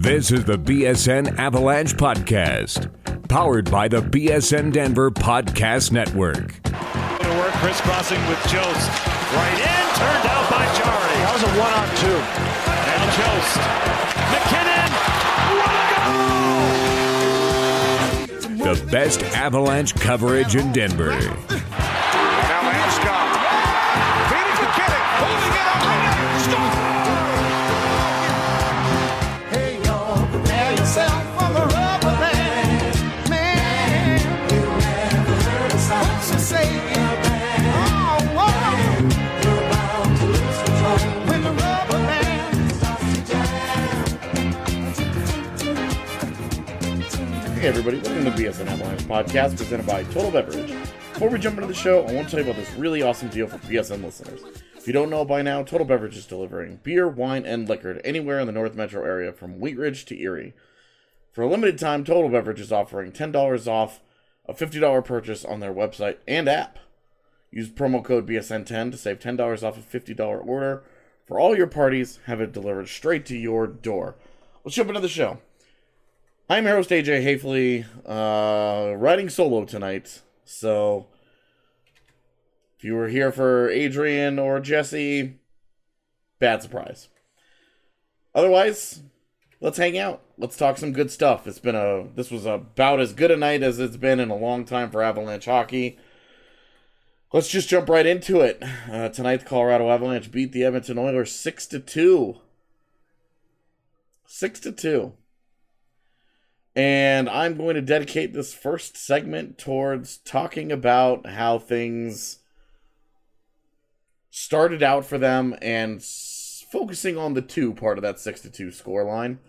This is the BSN Avalanche Podcast, powered by the BSN Denver Podcast Network. To work, crisscrossing with Jost. Right in, turned out by Jarry. That And Jost. McKinnon. The best Avalanche coverage in Denver. Now Landeskog. Feeding McKinnon. Holding it up. Hey, y'all, prepare yourself for the rubber band. Man, you never heard a sound so say it. Oh, whoa. You're bound to lose control when the rubber band starts to jam. Hey everybody, welcome to the BSN Avalanche Podcast presented by Total Beverage. Before we jump into the show, I want to tell you about this really awesome deal for BSN listeners. If you don't know by now, Total Beverage is delivering beer, wine, and liquor to anywhere in the North Metro area from Wheat Ridge to Erie. For a limited time, Total Beverage is offering $10 off a $50 purchase on their website and app. Use promo code BSN10 to save $10 off a $50 order for all your parties. Have it delivered straight to your door. Let's jump into the show. I'm your host, AJ Hafley, riding solo tonight, so if you were here for Adrian or Jesse, bad surprise. Otherwise, let's hang out. Let's talk some good stuff. This was about as good a night as it's been in a long time for Avalanche hockey. Let's just jump right into it. Tonight, the Colorado Avalanche beat the Edmonton Oilers 6-2. 6-2. And I'm going to dedicate this first segment towards talking about how things started out for them and focusing on the 2 part of that 6-2 scoreline.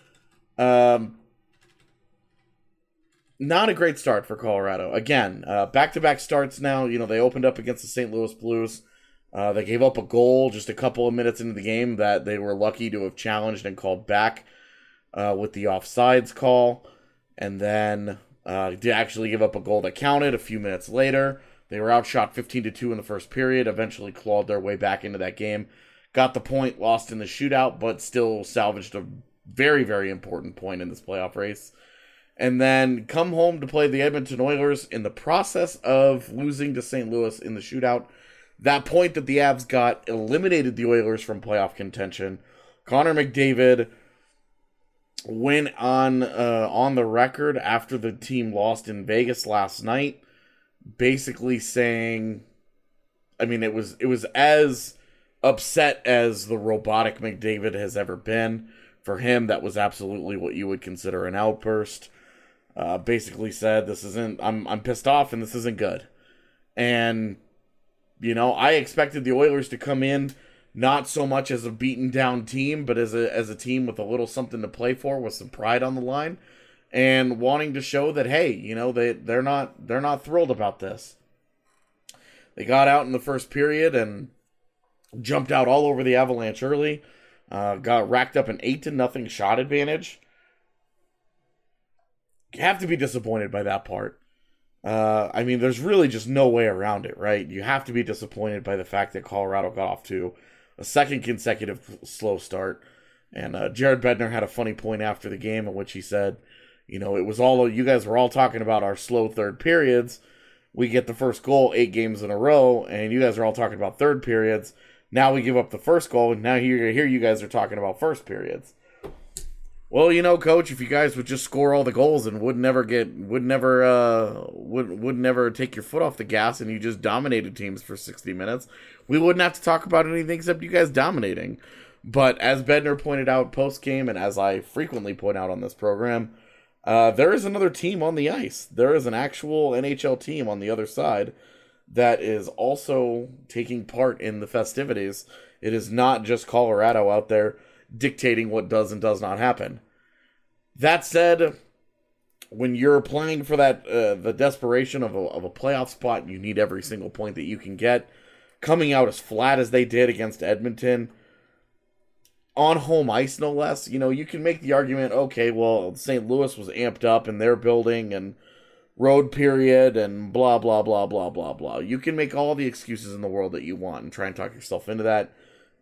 Not a great start for Colorado. Again, back-to-back starts now. You know, they opened up against the St. Louis Blues. They gave up a goal just a couple of minutes into the game that they were lucky to have challenged and called back. With the offsides call, and then did actually give up a goal that counted a few minutes later. They were outshot 15-2 in the first period, eventually clawed their way back into that game. Got the point, lost in the shootout, but still salvaged a very, very important point in this playoff race. And then come home to play the Edmonton Oilers in the process of losing to St. Louis in the shootout. That point that the Avs got eliminated the Oilers from playoff contention. Connor McDavid went on the record after the team lost in Vegas last night, basically saying, I mean, it was as upset as the robotic McDavid has ever been. For him, that was absolutely what you would consider an outburst. Basically said, I'm pissed off and this isn't good. And, you know, I expected the Oilers to come in not so much as a beaten down team, but as a team with a little something to play for, with some pride on the line, and wanting to show that, hey, you know, they're not thrilled about this. They got out in the first period and jumped out all over the Avalanche early. Got racked up an 8-0 shot advantage. You have to be disappointed by that part. I mean, there's really just no way around it, right? You have to be disappointed by the fact that Colorado got off to a second consecutive slow start. And Jared Bednar had a funny point after the game in which he said, you know, you guys were all talking about our slow third periods. We get the first goal 8 games in a row, and you guys are all talking about third periods. Now we give up the first goal, and now here you guys are talking about first periods. Well, you know, Coach, if you guys would just score all the goals and would never take your foot off the gas and you just dominated teams for 60 minutes, we wouldn't have to talk about anything except you guys dominating. But as Bednar pointed out post-game, and as I frequently point out on this program, there is another team on the ice. There is an actual NHL team on the other side that is also taking part in the festivities. It is not just Colorado out there dictating what does and does not happen. That said, when you're playing for that the desperation of a playoff spot, you need every single point that you can get. Coming out as flat as they did against Edmonton, on home ice no less, you know, you can make the argument, okay, well, St. Louis was amped up in their building and road period and blah, blah, blah, blah, blah, blah. You can make all the excuses in the world that you want and try and talk yourself into that.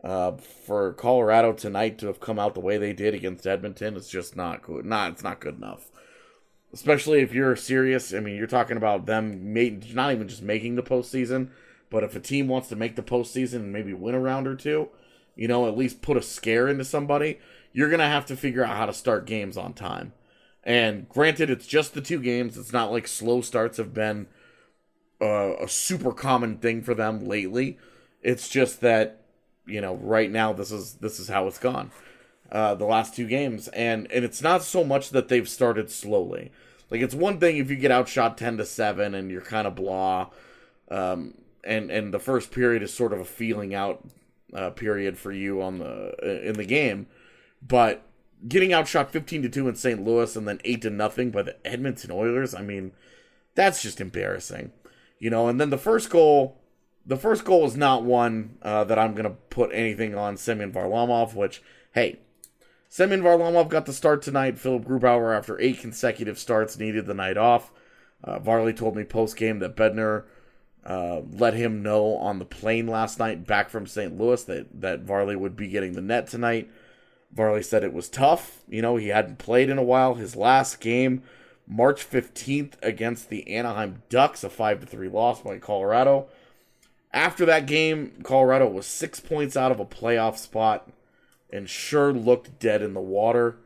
For Colorado tonight to have come out the way they did against Edmonton, it's just not good. It's not good enough. Especially if you're serious. I mean, you're talking about them not even just making the postseason, but if a team wants to make the postseason and maybe win a round or two, at least put a scare into somebody, you're going to have to figure out how to start games on time. And granted, it's just the 2 games. It's not like slow starts have been a super common thing for them lately. It's just that, right now this is how it's gone. The last 2 games. And it's not so much that they've started slowly. Like, it's one thing if you get outshot 10-7 and you're kind of blah, and the first period is sort of a feeling out period for you in the game. But getting outshot 15-2 in St. Louis and then 8-0 by the Edmonton Oilers, I mean, that's just embarrassing. And then the first goal is not one that I'm going to put anything on Semyon Varlamov, which, hey, Semyon Varlamov got the start tonight. Philip Grubauer, after 8 consecutive starts, needed the night off. Varley told me post-game that Bednar let him know on the plane last night back from St. Louis that Varley would be getting the net tonight. Varley said it was tough. He hadn't played in a while. His last game, March 15th against the Anaheim Ducks, a 5-3 loss by Colorado. After that game, Colorado was 6 points out of a playoff spot and sure looked dead in the water.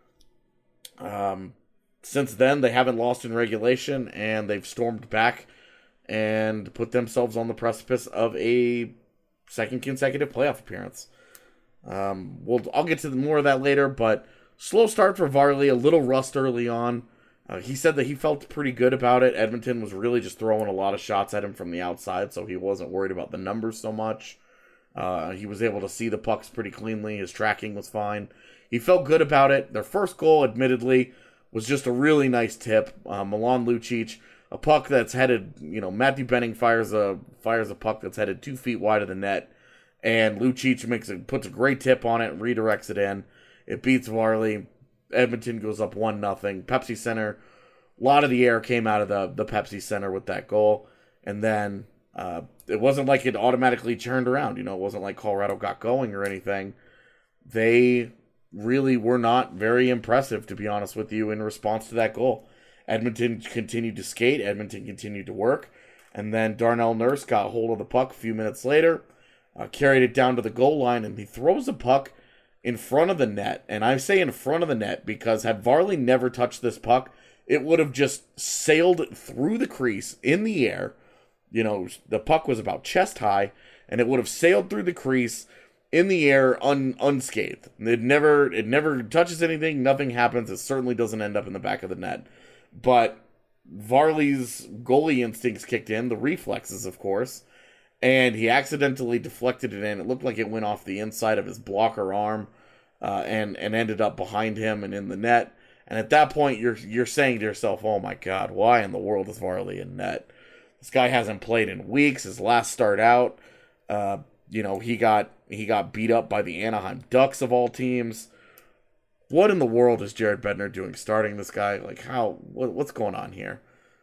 Since then, they haven't lost in regulation, and they've stormed back and put themselves on the precipice of a second consecutive playoff appearance. I'll get to more of that later, but slow start for Varley, a little rust early on. He said that he felt pretty good about it. Edmonton was really just throwing a lot of shots at him from the outside, so he wasn't worried about the numbers so much. He was able to see the pucks pretty cleanly. His tracking was fine. He felt good about it. Their first goal, admittedly, was just a really nice tip. Milan Lucic, a puck that's headed, Matthew Benning fires a puck that's headed 2 feet wide of the net, and Lucic puts a great tip on it, redirects it in. It beats Varley. Edmonton goes up 1-0. Pepsi Center, a lot of the air came out of the Pepsi Center with that goal. And then it wasn't like it automatically turned around. It wasn't like Colorado got going or anything. They really were not very impressive, to be honest with you, in response to that goal. Edmonton continued to skate. Edmonton continued to work. And then Darnell Nurse got hold of the puck a few minutes later, carried it down to the goal line, and he throws the puck in front of the net. And I say in front of the net because had Varley never touched this puck, it would have just sailed through the crease in the air. The puck was about chest high, and it would have sailed through the crease in the air unscathed. It never touches anything. Nothing happens. It certainly doesn't end up in the back of the net. But Varley's goalie instincts kicked in, the reflexes, of course, and he accidentally deflected it in. It looked like it went off the inside of his blocker arm and ended up behind him and in the net. And at that point, you're saying to yourself, oh my God, why in the world is Varley in net? This guy hasn't played in weeks. His last start out, he got beat up by the Anaheim Ducks of all teams. What in the world is Jared Bednar doing starting this guy? What's going on here?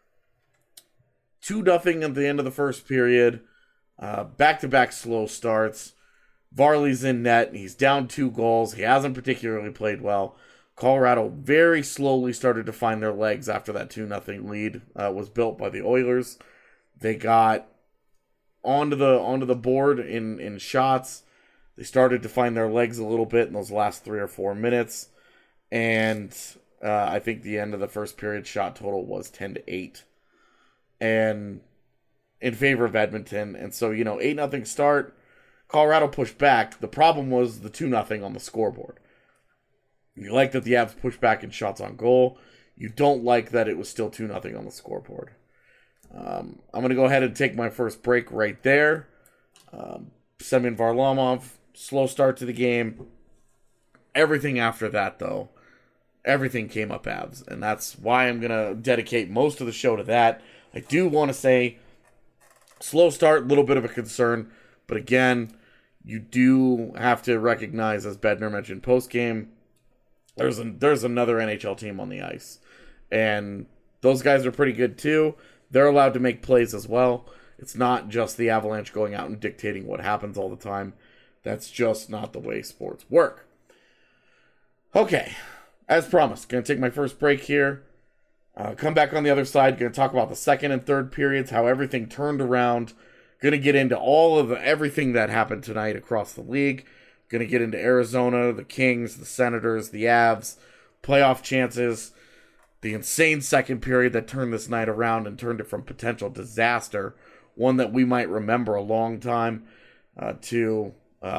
2-0 at the end of the first period. Back-to-back slow starts. Varley's in net. He's down 2 goals. He hasn't particularly played well. Colorado very slowly started to find their legs after that 2-0 lead was built by the Oilers. They got onto the board in shots. They started to find their legs a little bit in those last 3 or 4 minutes. And I think the end of the first period shot total was 10-8. And in favor of Edmonton. And so, 8-0 start. Colorado pushed back. The problem was the 2-0 on the scoreboard. You like that the Avs pushed back in shots on goal. You don't like that it was still 2-0 on the scoreboard. I'm going to go ahead and take my first break right there. Semyon Varlamov, slow start to the game. Everything after that, though, everything came up Avs. And that's why I'm going to dedicate most of the show to that. I do want to say, slow start, a little bit of a concern. But again, you do have to recognize, as Bednar mentioned post-game, there's another NHL team on the ice. And those guys are pretty good too. They're allowed to make plays as well. It's not just the Avalanche going out and dictating what happens all the time. That's just not the way sports work. Okay, as promised, going to take my first break here. Come back on the other side. Going to talk about the second and third periods, how everything turned around. Going to get into all of everything that happened tonight across the league. Going to get into Arizona, the Kings, the Senators, the Avs, playoff chances, the insane second period that turned this night around and turned it from potential disaster, one that we might remember a long time, to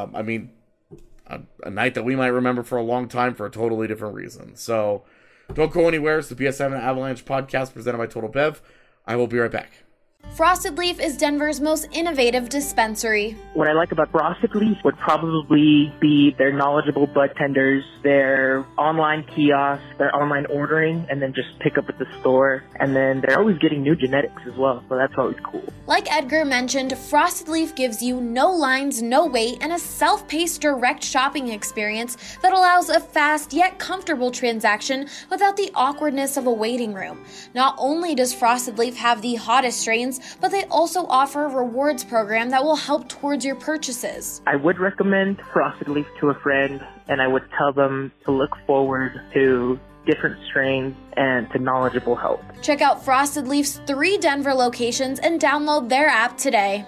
a night that we might remember for a long time for a totally different reason. So don't go anywhere. It's the BSN Avalanche podcast presented by Total Bev. I will be right back. Frosted Leaf is Denver's most innovative dispensary. What I like about Frosted Leaf would probably be their knowledgeable bud tenders, their online kiosks, their online ordering, and then just pick up at the store. And then they're always getting new genetics as well, so that's always cool. Like Edgar mentioned, Frosted Leaf gives you no lines, no wait, and a self-paced direct shopping experience that allows a fast yet comfortable transaction without the awkwardness of a waiting room. Not only does Frosted Leaf have the hottest strains, but they also offer a rewards program that will help towards your purchases. I would recommend Frosted Leaf to a friend, and I would tell them to look forward to different strains and to knowledgeable help. Check out Frosted Leaf's 3 Denver locations and download their app today.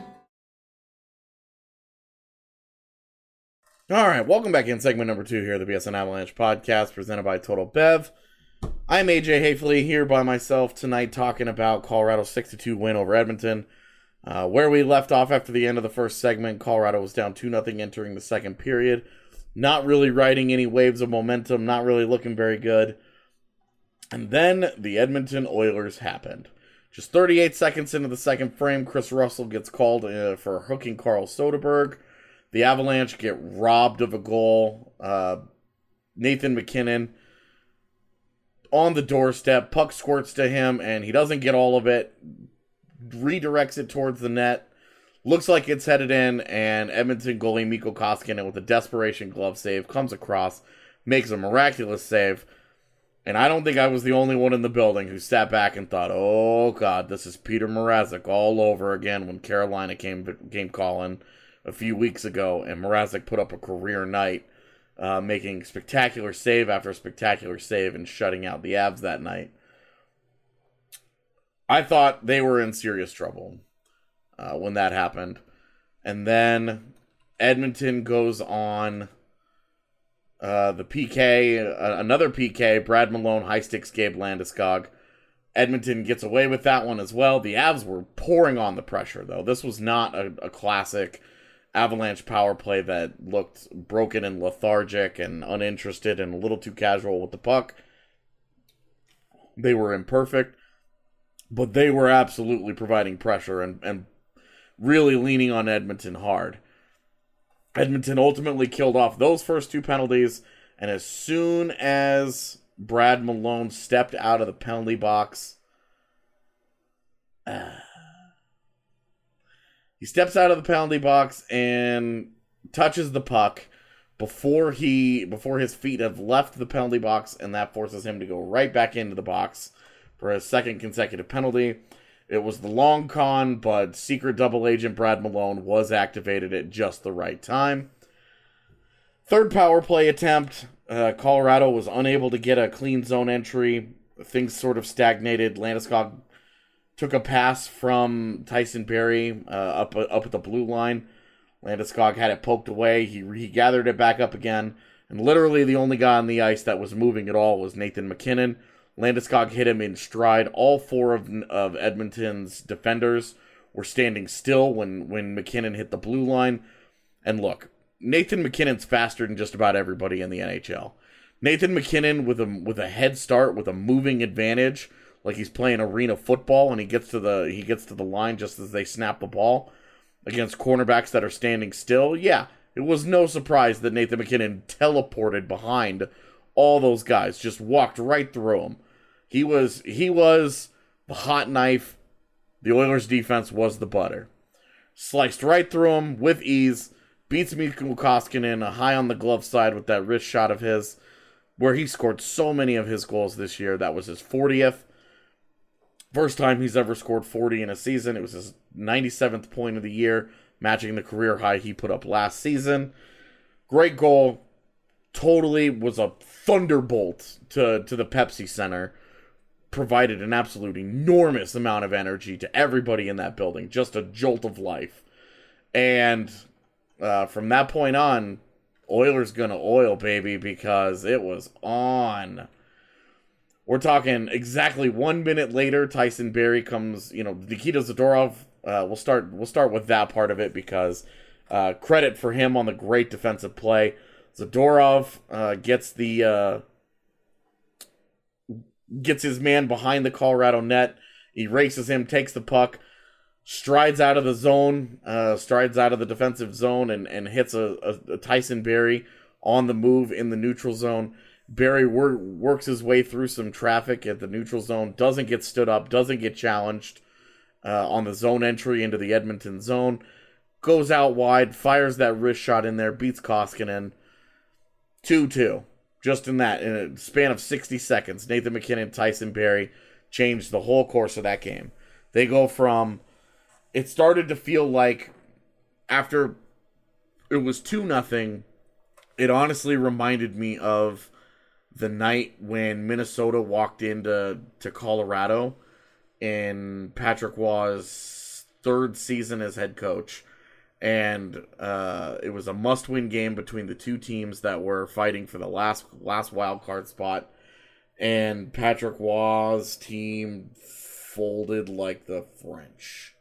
All right, welcome back in segment number 2 here, the BSN Avalanche podcast presented by Total Bev. I'm AJ Hafley here by myself tonight talking about Colorado's 6-2 win over Edmonton. Where we left off after the end of the first segment, Colorado was down 2-0 entering the second period. Not really riding any waves of momentum, not really looking very good. And then the Edmonton Oilers happened. Just 38 seconds into the second frame, Chris Russell gets called for hooking Carl Soderberg. The Avalanche get robbed of a goal. Nathan MacKinnon on the doorstep, puck squirts to him, and he doesn't get all of it. Redirects it towards the net. Looks like it's headed in, and Edmonton goalie Mikko Koskinen with a desperation glove save comes across, makes a miraculous save. And I don't think I was the only one in the building who sat back and thought, oh God, this is Peter Mrazek all over again when Carolina came calling a few weeks ago, and Mrazek put up a career night. Making spectacular save after spectacular save and shutting out the Avs that night. I thought they were in serious trouble when that happened. And then Edmonton goes on the PK, another PK, Brad Malone, high sticks Gabe Landeskog. Edmonton gets away with that one as well. The Avs were pouring on the pressure, though. This was not a classic Avalanche power play that looked broken and lethargic and uninterested and a little too casual with the puck. They were imperfect, but they were absolutely providing pressure and really leaning on Edmonton hard. Edmonton ultimately killed off those first 2 penalties, and as soon as Brad Malone stepped out of the penalty box, he steps out of the penalty box and touches the puck before his feet have left the penalty box, and that forces him to go right back into the box for his second consecutive penalty. It was the long con, but secret double agent Brad Malone was activated at just the right time. Third power play attempt. Colorado was unable to get a clean zone entry. Things sort of stagnated. Landeskog took a pass from Tyson Barrie up at the blue line. Landeskog had it poked away. He gathered it back up again. And literally the only guy on the ice that was moving at all was Nathan MacKinnon. Landeskog hit him in stride. All 4 of Edmonton's defenders were standing still when MacKinnon hit the blue line. And look, Nathan MacKinnon's faster than just about everybody in the NHL. Nathan MacKinnon with a head start, with a moving advantage, like he's playing arena football, and he gets to the line just as they snap the ball against cornerbacks that are standing still. Yeah, it was no surprise that Nathan MacKinnon teleported behind all those guys, just walked right through them. He was the hot knife. The Oilers' defense was the butter. Sliced right through him with ease, beats Mikko Koskinen high on the glove side with that wrist shot of his, where he scored so many of his goals this year. That was his 40th. First time he's ever scored 40 in a season. It was his 97th point of the year. matching the career high he put up last season. Great goal. Totally was a thunderbolt to the Pepsi Center. Provided an absolute enormous amount of energy to everybody in that building. Just a jolt of life. And from that point on, Oilers gonna oil, baby, because it was on. We're talking exactly 1 minute later, Tyson Barrie comes, Nikita Zadorov, we'll start with that part of it because credit for him on the great defensive play. Zadorov gets his man behind the Colorado net. He races him, takes the puck, strides out of the zone, strides out of the defensive zone, and hits a Tyson Barrie on the move in the neutral zone. Barrie works his way through some traffic at the neutral zone, doesn't get stood up, doesn't get challenged on the zone entry into the Edmonton zone, goes out wide, fires that wrist shot in there, beats Koskinen. 2-2. Just in a span of 60 seconds, Nathan MacKinnon, Tyson Barrie changed the whole course of that game. They go from... It started to feel like after it was 2-0, it honestly reminded me of the night when Minnesota walked into Colorado in Patrick Waugh's third season as head coach. And it was a must-win game between the two teams that were fighting for the last wild card spot. And Patrick Waugh's team folded like the French.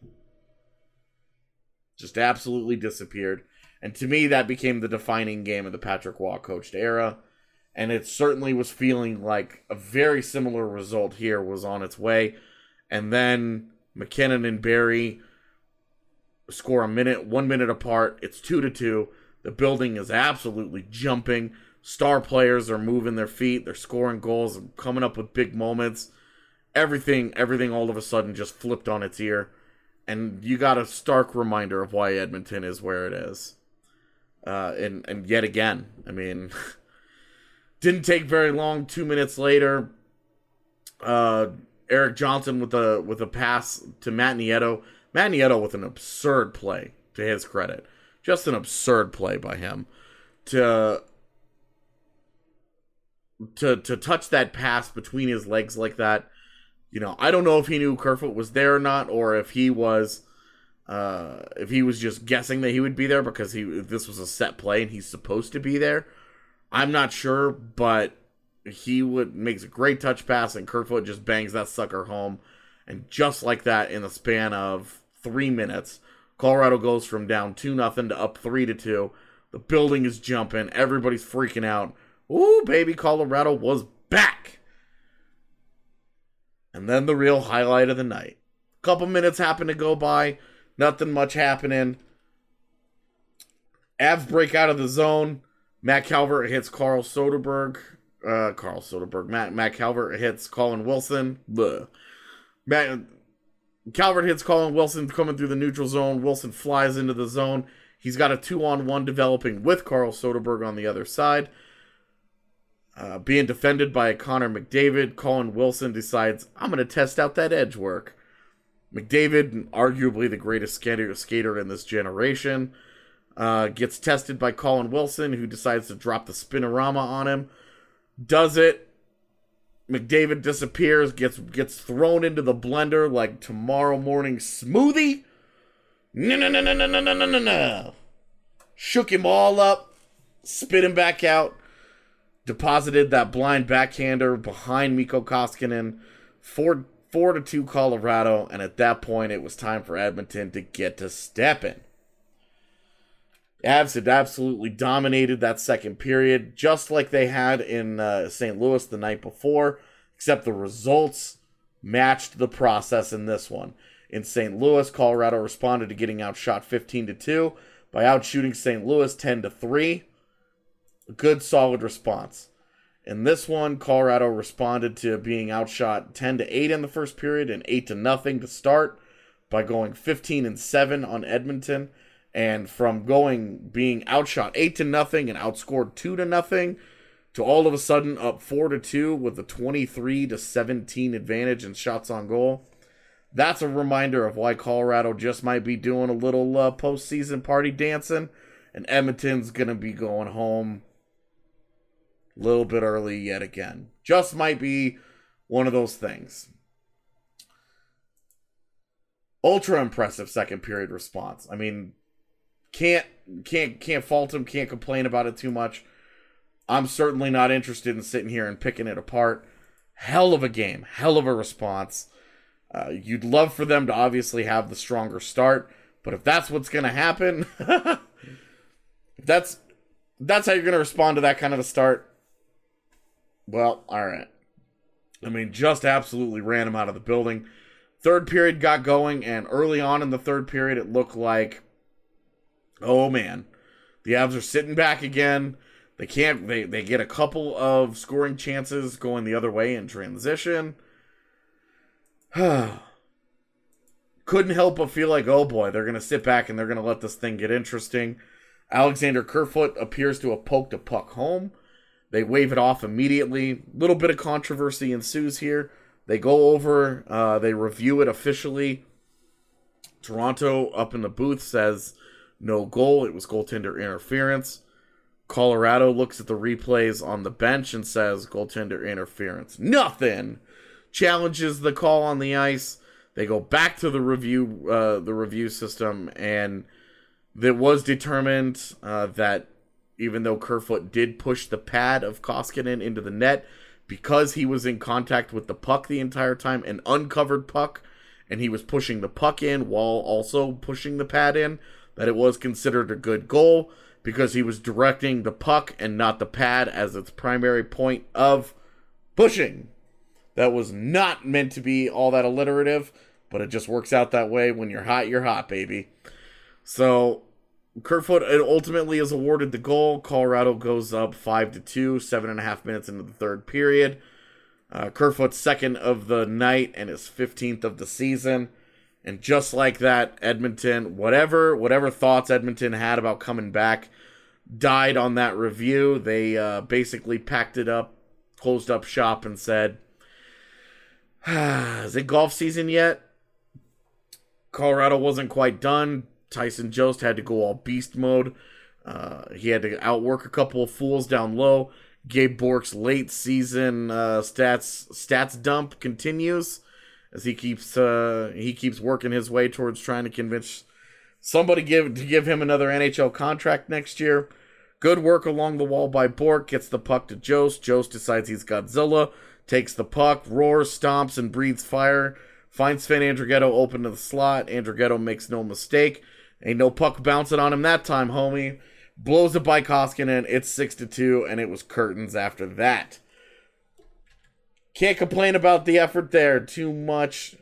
Just absolutely disappeared. And to me, that became the defining game of the Patrick Waugh coached era. And it certainly was feeling like a very similar result here was on its way. And then MacKinnon and Barrie score 1 minute apart. It's 2-2. The building is absolutely jumping. Star players are moving their feet. They're scoring goals and coming up with big moments. Everything all of a sudden just flipped on its ear. And you got a stark reminder of why Edmonton is where it is. And yet again, I mean, didn't take very long. 2 minutes later, Eric Johnson with a pass to Matt Nieto. Matt Nieto with an absurd play, to his credit. Just an absurd play by him. To touch that pass between his legs like that. I don't know if he knew Kerfoot was there or not, or if he was just guessing that he would be there because this was a set play and he's supposed to be there. I'm not sure, but he makes a great touch pass and Kerfoot just bangs that sucker home. And just like that, in the span of 3 minutes, Colorado goes from down 2-0 to up 3-2. The building is jumping. Everybody's freaking out. Ooh, baby, Colorado was back. And then the real highlight of the night. Couple minutes happen to go by. Nothing much happening. Avs break out of the zone. Matt Calvert hits Matt Calvert hits Colin Wilson. Calvert hits Colin Wilson coming through the neutral zone. Wilson flies into the zone. He's got a 2-on-1 developing with Carl Soderberg on the other side. Being defended by Connor McDavid, Colin Wilson decides, I'm going to test out that edge work. McDavid, arguably the greatest skater in this generation, gets tested by Colin Wilson, who decides to drop the spinorama on him. Does it. McDavid disappears, gets thrown into the blender like tomorrow morning smoothie. No. Shook him all up, spit him back out, deposited that blind backhander behind Mikko Koskinen. 4-2 Colorado, and at that point it was time for Edmonton to get to stepping. Avs had absolutely dominated that second period, just like they had in St. Louis the night before, except the results matched the process in this one. In St. Louis, Colorado responded to getting outshot 15-2 by outshooting St. Louis 10-3. A good, solid response. In this one, Colorado responded to being outshot 10-8 in the first period and 8-0 to start by going 15-7 on Edmonton. And from being outshot 8-0 and outscored 2-0 to all of a sudden up 4-2 with a 23-17 advantage in shots on goal. that's a reminder of why Colorado just might be doing a little postseason party dancing, and Edmonton's going to be going home a little bit early yet again. Just might be one of those things. Ultra impressive second period response. I mean, can't fault him, can't complain about it too much. I'm certainly not interested in sitting here and picking it apart. Hell of a game, hell of a response. You'd love for them to obviously have the stronger start, but if that's what's going to happen, if that's how you're going to respond to that kind of a start, well, all right. I mean, just absolutely ran him out of the building. Third period got going, and early on in the third period, it looked like, oh man, the Avs are sitting back again. They get a couple of scoring chances going the other way in transition. Couldn't help but feel like, oh boy, they're going to sit back and they're going to let this thing get interesting. Alexander Kerfoot appears to have poked a puck home. They wave it off immediately. Little bit of controversy ensues here. They go over, they review it officially. Toronto up in the booth says no goal. It was goaltender interference. Colorado looks at the replays on the bench and says goaltender interference. Nothing. Challenges the call on the ice. They go back to the review system, and it was determined that even though Kerfoot did push the pad of Koskinen into the net, because he was in contact with the puck the entire time, an uncovered puck, and he was pushing the puck in while also pushing the pad in, that it was considered a good goal because he was directing the puck and not the pad as its primary point of pushing. That was not meant to be all that alliterative, but it just works out that way. When you're hot, baby. So Kerfoot ultimately is awarded the goal. Colorado goes up 5-2, 7.5 minutes into the third period. Kerfoot's second of the night and his 15th of the season. And just like that, Edmonton, whatever thoughts Edmonton had about coming back, died on that review. They basically packed it up, closed up shop, and said, is it golf season yet? Colorado wasn't quite done. Tyson Jost had to go all beast mode. He had to outwork a couple of fools down low. Gabe Bork's late season stats dump continues as he keeps working his way towards trying to convince somebody to give him another NHL contract next year. Good work along the wall by Bork. Gets the puck to Jost. Jost decides he's Godzilla. Takes the puck, roars, stomps, and breathes fire. Finds Sven Andrighetto open to the slot. Andrighetto makes no mistake. Ain't no puck bouncing on him that time, homie. Blows it by Koskinen. It's 6-2, and it was curtains after that. Can't complain about the effort there too much.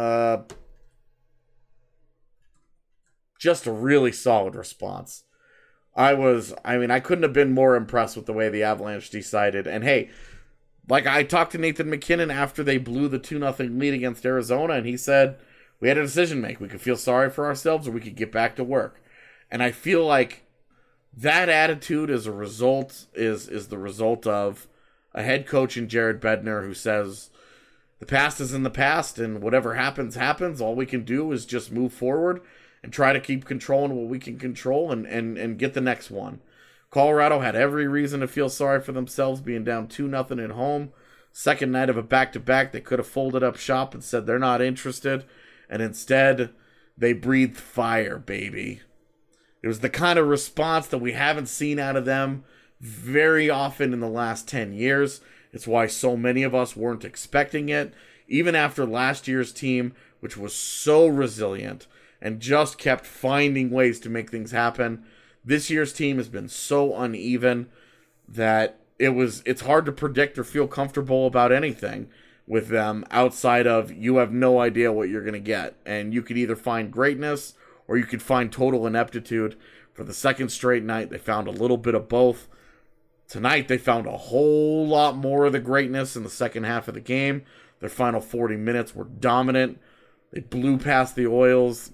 Just a really solid response. I couldn't have been more impressed with the way the Avalanche decided. And hey, like, I talked to Nathan McKinnon after they blew the 2-0 lead against Arizona, and he said, we had a decision to make. We could feel sorry for ourselves, or we could get back to work. And I feel like that attitude is the result of a head coach in Jared Bednar who says, the past is in the past, and whatever happens, happens. All we can do is just move forward and try to keep controlling what we can control and get the next one. Colorado had every reason to feel sorry for themselves being down 2-0 at home. Second night of a back-to-back, they could have folded up shop and said they're not interested. And instead, they breathed fire, baby. It was the kind of response that we haven't seen out of them very often in the last 10 years. It's why so many of us weren't expecting it. Even after last year's team, which was so resilient and just kept finding ways to make things happen, this year's team has been so uneven that it's hard to predict or feel comfortable about anything with them outside of you have no idea what you're going to get. And you could either find greatness or you could find total ineptitude. For the second straight night, they found a little bit of both. Tonight, they found a whole lot more of the greatness in the second half of the game. Their final 40 minutes were dominant. They blew past the Oilers,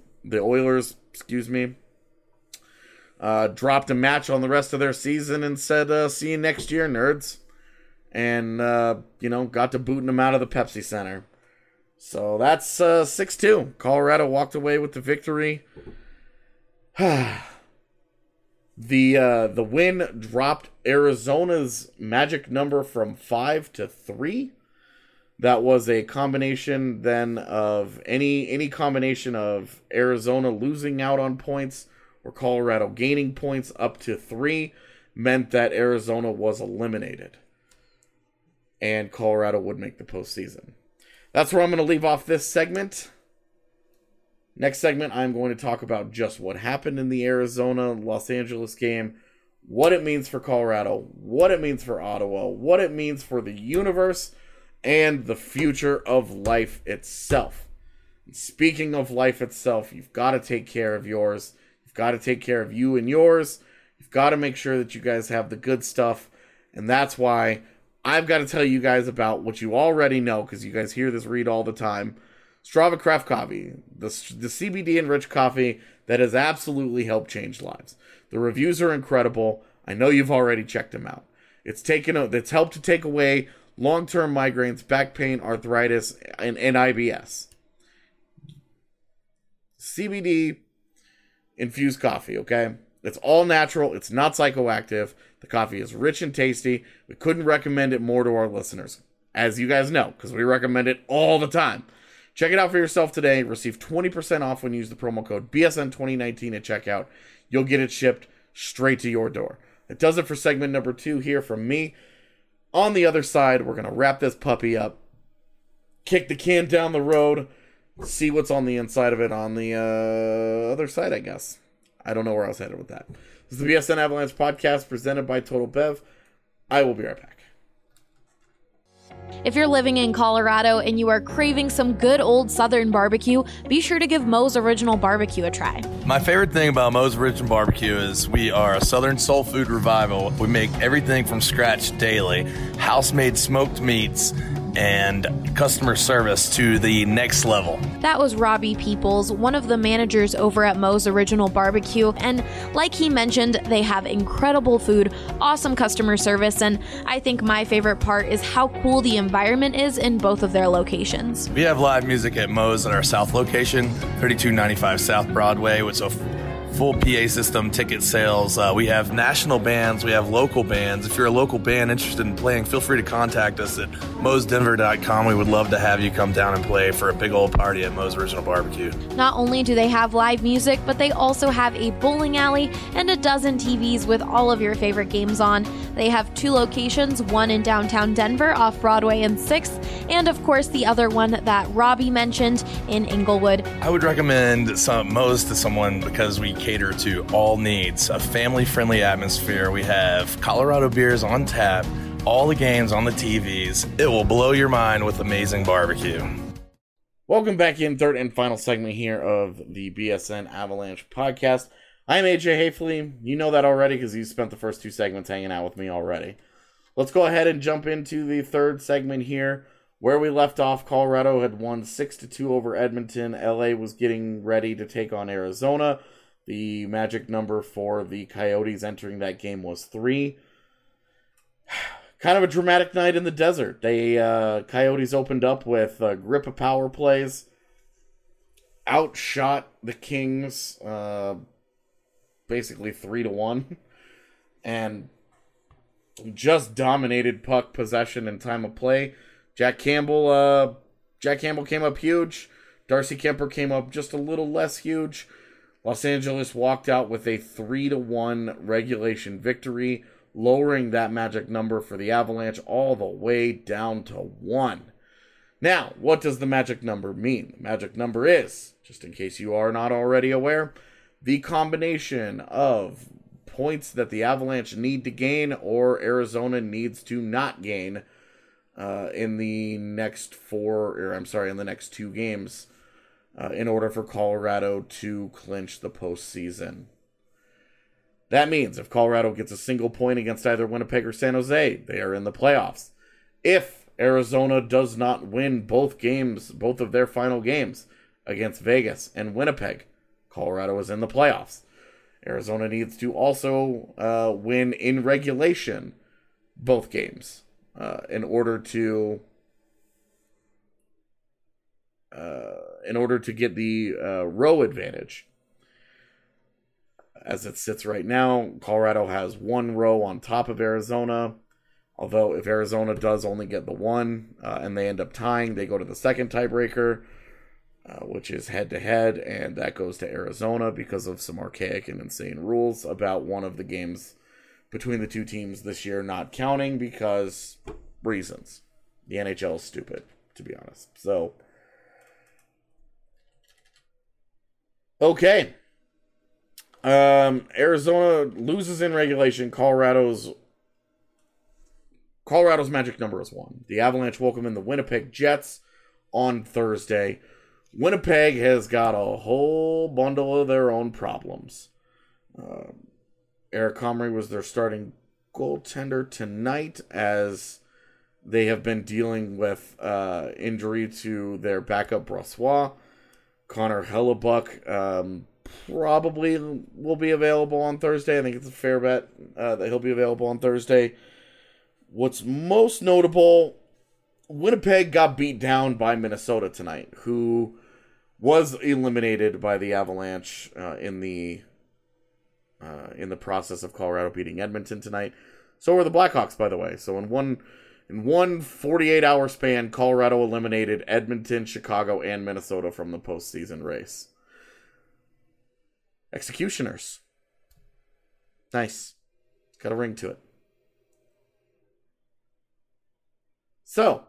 dropped a match on the rest of their season and said, see you next year, nerds. And, got to booting them out of the Pepsi Center. So that's 6-2. Colorado walked away with the victory. The win dropped Arizona's magic number from 5 to 3. That was a combination then of any combination of Arizona losing out on points or Colorado gaining points up to 3 meant that Arizona was eliminated. And Colorado would make the postseason. That's where I'm going to leave off this segment. Next segment, I'm going to talk about just what happened in the Arizona-Los Angeles game, what it means for Colorado, what it means for Ottawa, what it means for the universe, and the future of life itself. And speaking of life itself, you've got to take care of yours. You've got to take care of you and yours. You've got to make sure that you guys have the good stuff. And that's why I've got to tell you guys about what you already know, because you guys hear this read all the time. Strava Craft Coffee, the CBD-enriched coffee that has absolutely helped change lives. The reviews are incredible. I know you've already checked them out. It's helped to take away long-term migraines, back pain, arthritis, and IBS. CBD-infused coffee, okay? It's all natural. It's not psychoactive. The coffee is rich and tasty. We couldn't recommend it more to our listeners, as you guys know, because we recommend it all the time. Check it out for yourself today. Receive 20% off when you use the promo code BSN2019 at checkout. You'll get it shipped straight to your door. That does it for segment number 2 here from me. On the other side, we're going to wrap this puppy up, kick the can down the road, see what's on the inside of it on the other side, I guess. I don't know where I was headed with that. This is the BSN Avalanche podcast presented by Total Bev. I will be right back. If you're living in Colorado and you are craving some good old Southern barbecue, be sure to give Moe's Original Barbecue a try. My favorite thing about Moe's Original Barbecue is we are a Southern soul food revival. We make everything from scratch daily, house-made smoked meats, and customer service to the next level. That was Robbie Peoples, one of the managers over at Moe's Original Barbecue, and like he mentioned, they have incredible food, awesome customer service, and I think my favorite part is how cool the environment is in both of their locations. We have live music at Moe's at our South location, 3295 South Broadway, with a full PA system, ticket sales. We have national bands, we have local bands. If you're a local band interested in playing, feel free to contact us at moesdenver.com. We would love to have you come down and play for a big old party at Moe's Original Barbecue. Not only do they have live music, but they also have a bowling alley and a dozen TVs with all of your favorite games on. They have 2 locations, one in downtown Denver off Broadway and 6th, and of course the other one that Robbie mentioned in Inglewood. I would recommend Moe's to someone because we cater to all needs, a family-friendly atmosphere. We have Colorado beers on tap, all the games on the TVs. It will blow your mind with amazing barbecue. Welcome back in third and final segment here of the BSN Avalanche podcast. I'm AJ Hafley. You know that already because you spent the first 2 segments hanging out with me already. Let's go ahead and jump into the third segment here. Where we left off, Colorado had won 6-2 over Edmonton. LA was getting ready to take on Arizona. The magic number for the Coyotes entering that game was 3. Kind of a dramatic night in the desert. They Coyotes opened up with a grip of power plays, outshot the Kings basically 3-1, and just dominated puck possession and time of play. Jack Campbell came up huge. Darcy Kemper came up just a little less huge. Los Angeles walked out with a 3-1 regulation victory, lowering that magic number for the Avalanche all the way down to 1. Now, what does the magic number mean? The magic number is, just in case you are not already aware, the combination of points that the Avalanche need to gain or Arizona needs to not gain in the next 2 games. In order for Colorado to clinch the postseason. That means if Colorado gets a single point against either Winnipeg or San Jose, they are in the playoffs. If Arizona does not win both of their final games against Vegas and Winnipeg, Colorado is in the playoffs. Arizona needs to also win in regulation both games in order to in order to get the row advantage. As it sits right now, Colorado has 1 row on top of Arizona. Although if Arizona does only get the 1 and they end up tying, they go to the second tiebreaker, which is head-to-head, and that goes to Arizona because of some archaic and insane rules about one of the games between the two teams this year not counting because reasons. The NHL is stupid, to be honest. So, okay. Arizona loses in regulation. Colorado's magic number is 1. The Avalanche welcome in the Winnipeg Jets on Thursday. Winnipeg has got a whole bundle of their own problems. Eric Comrie was their starting goaltender tonight as they have been dealing with injury to their backup Brossoit. Connor Hellebuck probably will be available on Thursday. I think it's a fair bet that he'll be available on Thursday. What's most notable, Winnipeg got beat down by Minnesota tonight, who was eliminated by the Avalanche in the process of Colorado beating Edmonton tonight. So were the Blackhawks, by the way. So in one 48-hour span, Colorado eliminated Edmonton, Chicago, and Minnesota from the postseason race. Executioners. Nice. Got a ring to it. So,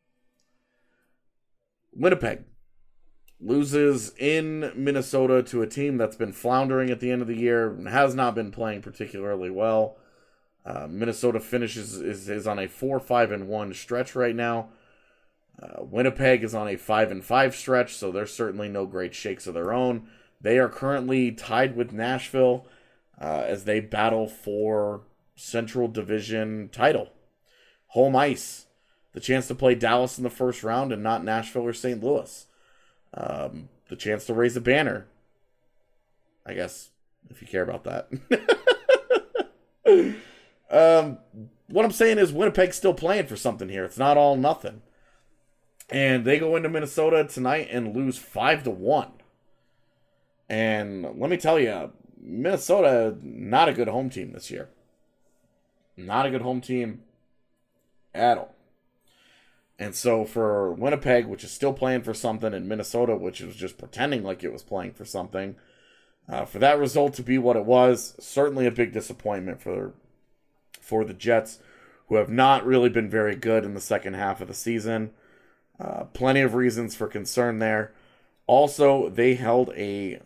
Winnipeg loses in Minnesota to a team that's been floundering at the end of the year and has not been playing particularly well. Minnesota is on a 4-5-1 stretch right now. Winnipeg is on a 5-5 stretch, so there's certainly no great shakes of their own. They are currently tied with Nashville as they battle for Central Division title. Home ice. The chance to play Dallas in the first round and not Nashville or St. Louis. The chance to raise a banner. I guess, if you care about that. What I'm saying is Winnipeg's still playing for something here. It's not all nothing. And they go into Minnesota tonight and lose 5-1. And let me tell you, Minnesota, not a good home team this year. Not a good home team at all. And so for Winnipeg, which is still playing for something, and Minnesota, which was just pretending like it was playing for something, for that result to be what it was, certainly a big disappointment for the Jets, who have not really been very good in the second half of the season. Plenty of reasons for concern there. Also, they held a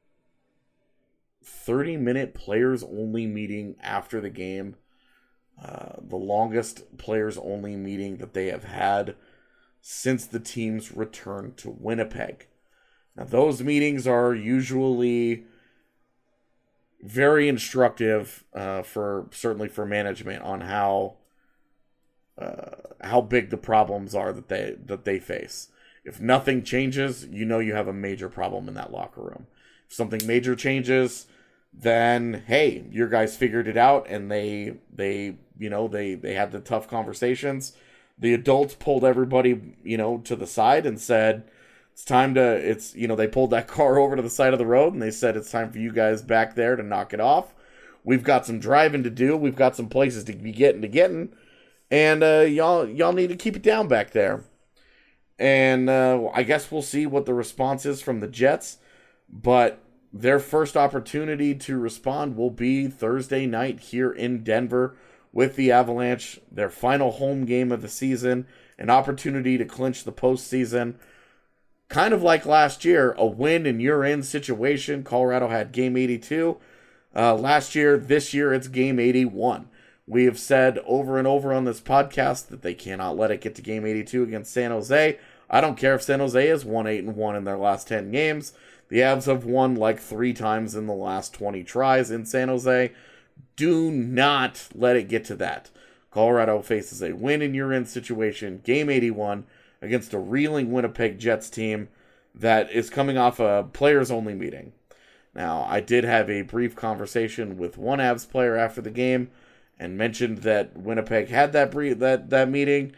30-minute players-only meeting after the game. The longest players-only meeting that they have had since the team's return to Winnipeg. Now, those meetings are usually very instructive certainly for management on how big the problems are that they face. If nothing changes, you know you have a major problem in that locker room. If something major changes, then hey, your guys figured it out, and they had the tough conversations. The adults pulled everybody, to the side and said, they pulled that car over to the side of the road and they said, it's time for you guys back there to knock it off. We've got some driving to do. We've got some places to be getting. And y'all need to keep it down back there. And I guess we'll see what the response is from the Jets. But their first opportunity to respond will be Thursday night here in Denver with the Avalanche. Their final home game of the season. An opportunity to clinch the postseason. Kind of like last year, a win and you're in situation. Colorado had game 82 last year. This year, it's game 81. We have said over and over on this podcast that they cannot let it get to game 82 against San Jose. I don't care if San Jose has won 8-1 in their last 10 games. The Avs have won like 3 times in the last 20 tries in San Jose. Do not let it get to that. Colorado faces a win and you're in situation, game 81, against a reeling Winnipeg Jets team that is coming off a players-only meeting. Now, I did have a brief conversation with one Avs player after the game and mentioned that Winnipeg had that meeting,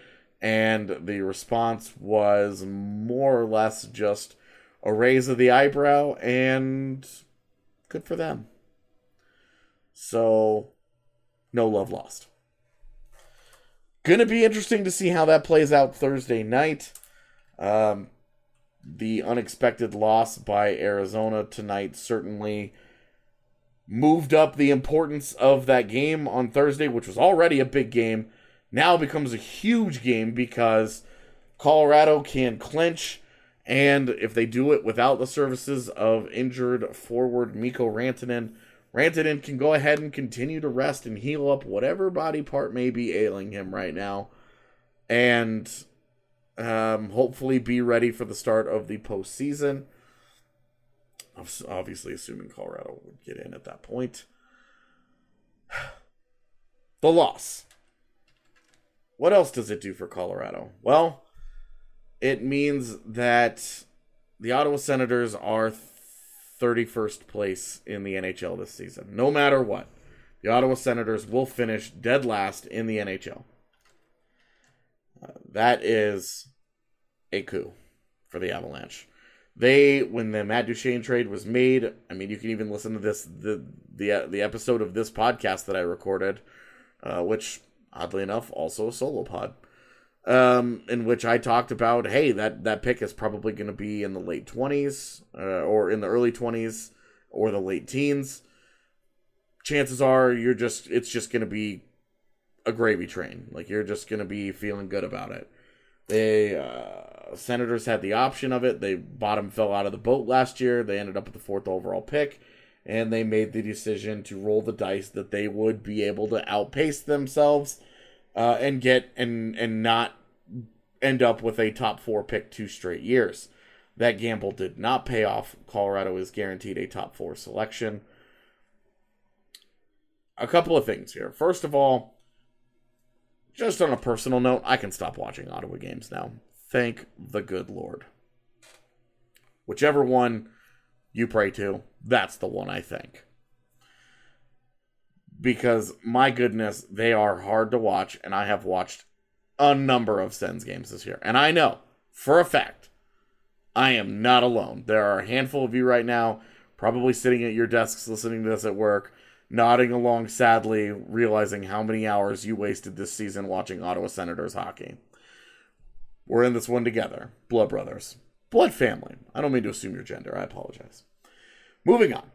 And the response was more or less just a raise of the eyebrow, and good for them. So, no love lost. Gonna be interesting to see how that plays out Thursday night. The unexpected loss by Arizona tonight certainly moved up the importance of that game on Thursday, which was already a big game. Now becomes a huge game because Colorado can clinch, and if they do it without the services of injured forward Mikko Rantanen, Rantanen can go ahead and continue to rest and heal up whatever body part may be ailing him right now, and hopefully be ready for the start of the postseason. Obviously, assuming Colorado would get in at that point. The loss. What else does it do for Colorado? Well, it means that the Ottawa Senators are 31st place in the NHL this season. No matter what, the Ottawa Senators will finish dead last in the NHL. That is a coup for the Avalanche. When the Matt Duchene trade was made, I mean, you can even listen to this, the episode of this podcast that I recorded, which, oddly enough, also a solo pod, in which I talked about, hey, that pick is probably going to be in the late 20s, or in the early 20s, or the late teens. Chances are it's just going to be a gravy train. Like, you're just going to be feeling good about it. Senators had the option of it. They bottom fell out of the boat last year. They ended up with the 4th overall pick, and they made the decision to roll the dice that they would be able to outpace themselves and not end up with a top 4 pick 2 straight years. That gamble did not pay off. Colorado is guaranteed a top 4 selection. A couple of things here. First of all, just on a personal note, I can stop watching Ottawa games now. Thank the good Lord. Whichever one you pray to, that's the one I think. Because, my goodness, they are hard to watch, and I have watched a number of Sens games this year. And I know, for a fact, I am not alone. There are a handful of you right now, probably sitting at your desks listening to this at work, nodding along sadly, realizing how many hours you wasted this season watching Ottawa Senators hockey. We're in this one together. Blood brothers. Blood family. I don't mean to assume your gender. I apologize. Moving on.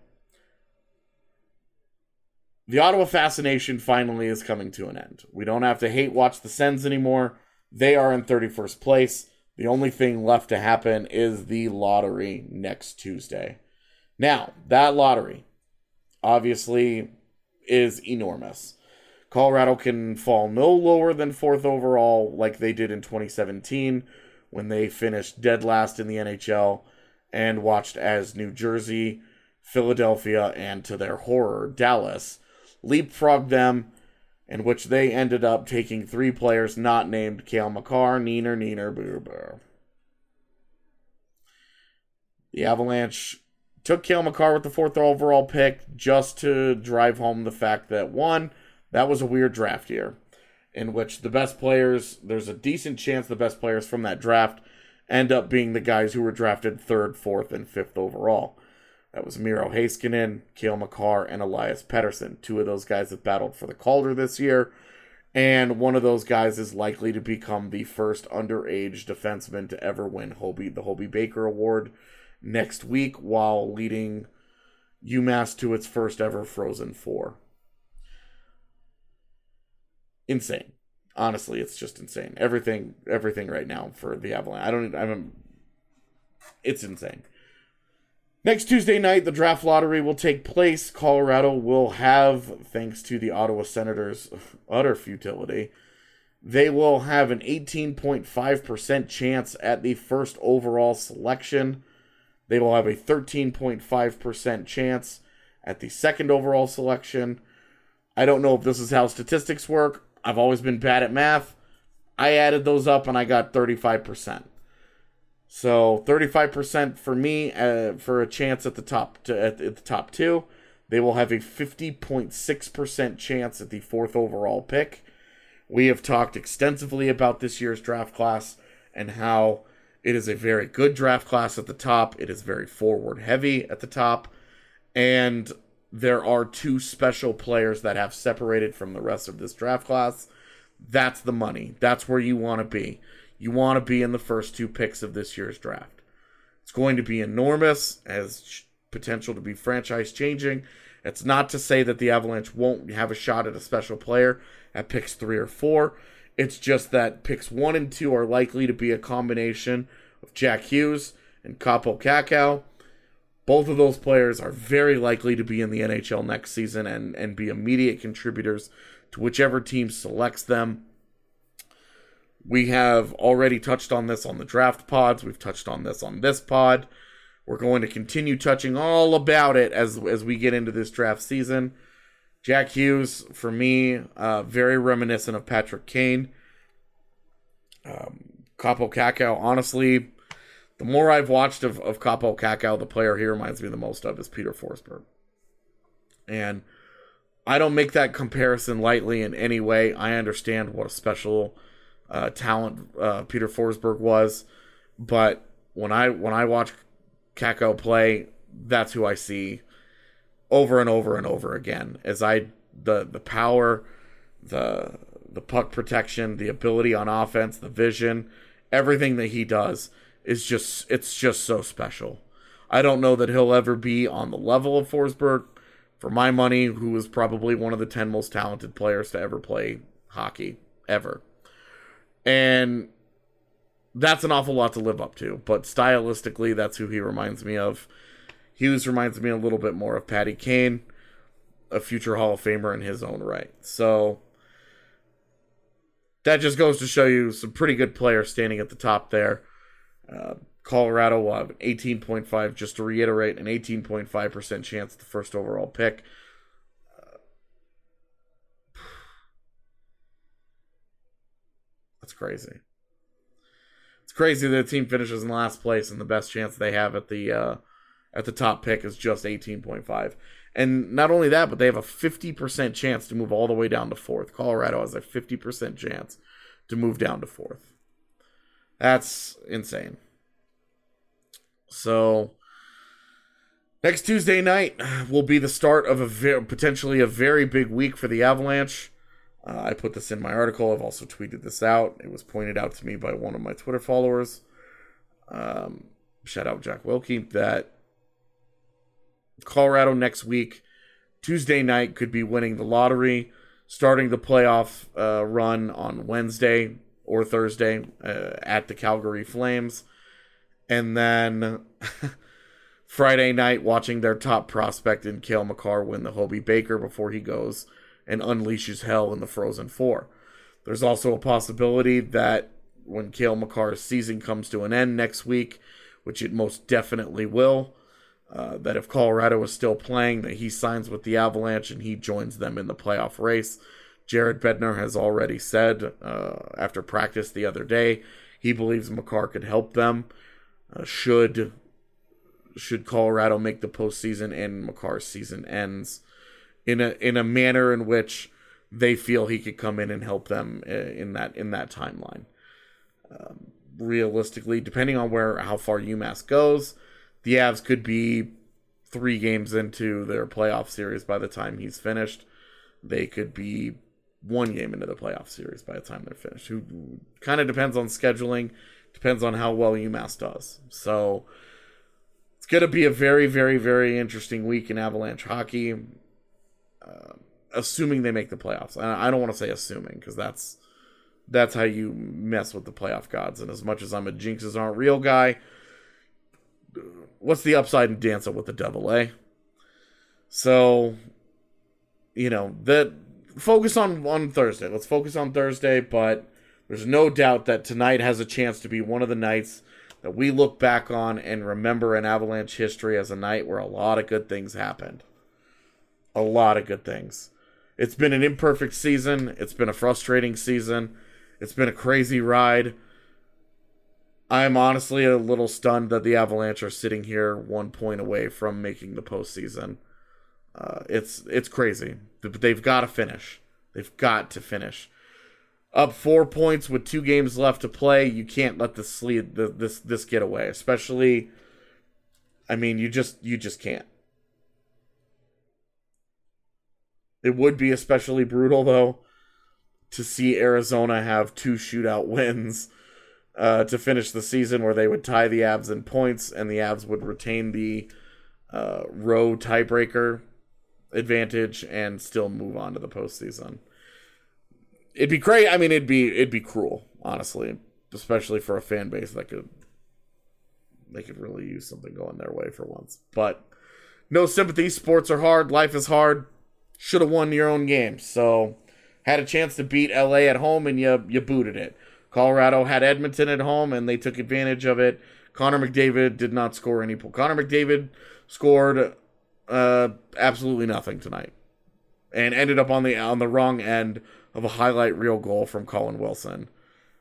The Ottawa fascination finally is coming to an end. We don't have to hate watch the Sens anymore. They are in 31st place. The only thing left to happen is the lottery next Tuesday. Now, that lottery obviously is enormous. Colorado can fall no lower than 4th overall like they did in 2017 when they finished dead last in the NHL and watched as New Jersey, Philadelphia, and to their horror, Dallas, leapfrogged them, in which they ended up taking 3 players not named Cale Makar, Neener, Boo Boo. The Avalanche took Cale Makar with the 4th overall pick just to drive home the fact that, one, that was a weird draft year in which the best players, there's a decent chance the best players from that draft end up being the guys who were drafted 3rd, 4th, and 5th overall. That was Miro Heiskanen, Cale Makar, and Elias Pettersson. 2 of those guys have battled for the Calder this year, and one of those guys is likely to become the first underage defenseman to ever win the Hobey Baker Award next week while leading UMass to its first ever Frozen Four. Insane. Honestly, it's just insane. Everything right now for the Avalanche. It's insane. Next Tuesday night, the draft lottery will take place. Colorado will have, thanks to the Ottawa Senators' utter futility, they will have an 18.5% chance at the 1st overall selection. They will have a 13.5% chance at the 2nd overall selection. I don't know if this is how statistics work. I've always been bad at math. I added those up and I got 35%. So 35% for me for a chance at the top at the top 2. They will have a 50.6% chance at the 4th overall pick. We have talked extensively about this year's draft class and how it is a very good draft class at the top. It is very forward heavy at the top. And there are two special players that have separated from the rest of this draft class. That's the money. That's where you want to be. You want to be in the first two picks of this year's draft. It's going to be enormous, has potential to be franchise changing. It's not to say that the Avalanche won't have a shot at a special player at picks 3 or 4. It's just that picks 1 and 2 are likely to be a combination of Jack Hughes and Kaapo Kakko. Both of those players are very likely to be in the NHL next season and be immediate contributors to whichever team selects them. We have already touched on this on the draft pods. We've touched on this on this pod. We're going to continue touching all about it as we get into this draft season. Jack Hughes, for me, very reminiscent of Patrick Kane. Kaapo Kakko, honestly, the more I've watched of Kaapo Kakko, the player he reminds me the most of is Peter Forsberg. And I don't make that comparison lightly in any way. I understand what a special talent Peter Forsberg was, but when I watch Kakko play, that's who I see over and over and over again. The power, the puck protection, the ability on offense, the vision, everything that he does is just so special. I don't know that he'll ever be on the level of Forsberg, for my money, who is probably one of the 10 most talented players to ever play hockey, ever. And that's an awful lot to live up to, but stylistically, that's who he reminds me of. Hughes reminds me a little bit more of Patty Kane, a future Hall of Famer in his own right. So that just goes to show you some pretty good players standing at the top there. Colorado will have an 18.5, just to reiterate, an 18.5% chance at the first overall pick. That's crazy. It's crazy that a team finishes in last place and the best chance they have at the top pick is just 18.5. And not only that, but they have a 50% chance to move all the way down to 4th. Colorado has a 50% chance to move down to 4th. That's insane. So next Tuesday night will be the start of potentially a very big week for the Avalanche. I put this in my article. I've also tweeted this out. It was pointed out to me by one of my Twitter followers. Shout out Jack Wilkie. That Colorado next week, Tuesday night, could be winning the lottery, starting the playoff run on Wednesday or Thursday at the Calgary Flames. And then Friday night, watching their top prospect in Cale Makar win the Hobey Baker before he goes and unleashes hell in the Frozen Four. There's also a possibility that when Cale Makar's season comes to an end next week, which it most definitely will, that if Colorado is still playing, that he signs with the Avalanche and he joins them in the playoff race. Jared Bednar has already said after practice the other day, he believes Makar could help them should Colorado make the postseason and Makar's season ends in a manner in which they feel he could come in and help them in that timeline. Realistically, depending on how far UMass goes, the Avs could be 3 games into their playoff series by the time he's finished. They could be 1 game into the playoff series by the time they're finished. Who kind of depends on scheduling, depends on how well UMass does. So it's going to be a very, very, very interesting week in Avalanche hockey. Assuming they make the playoffs. I don't want to say assuming, because that's how you mess with the playoff gods. And as much as I'm a jinxes aren't real guy, what's the upside in dancing with the devil, eh? So, focus on Thursday. Let's focus on Thursday, but there's no doubt that tonight has a chance to be one of the nights that we look back on and remember in Avalanche history as a night where a lot of good things happened. A lot of good things. It's been an imperfect season. It's been a frustrating season. It's been a crazy ride. I'm honestly a little stunned that the Avalanche are sitting here 1 point away from making the postseason. It's crazy. But they've got to finish. They've got to finish. Up 4 points with 2 games left to play. You can't let this get away. Especially, I mean, you just can't. It would be especially brutal, though, to see Arizona have 2 shootout wins to finish the season, where they would tie the Avs in points, and the Avs would retain the road tiebreaker advantage and still move on to the postseason. It'd be great. I mean, it'd be cruel, honestly, especially for a fan base that could really use something going their way for once. But no sympathy. Sports are hard. Life is hard. Should have won your own game. So had a chance to beat LA at home, and you booted it. Colorado had Edmonton at home, and they took advantage of it. Connor McDavid did not score any points. Connor McDavid scored absolutely nothing tonight, and ended up on the wrong end of a highlight reel goal from Colin Wilson.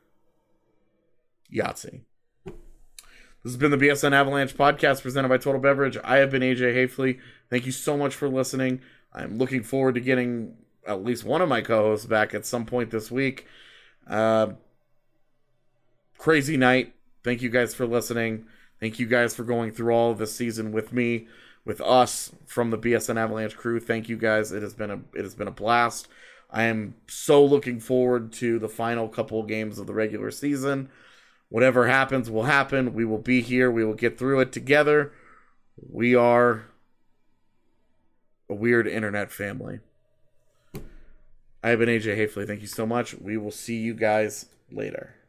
Yahtzee. This has been the BSN Avalanche podcast presented by Total Beverage. I have been AJ Hafley. Thank you so much for listening. I'm looking forward to getting at least one of my co-hosts back at some point this week. Crazy night. Thank you guys for listening. Thank you guys for going through all of this season with me, with us from the BSN Avalanche crew. Thank you guys. It has been a blast. I am so looking forward to the final couple of games of the regular season. Whatever happens will happen. We will be here. We will get through it together. We are a weird internet family. I have been AJ Hafley. Thank you so much. We will see you guys later.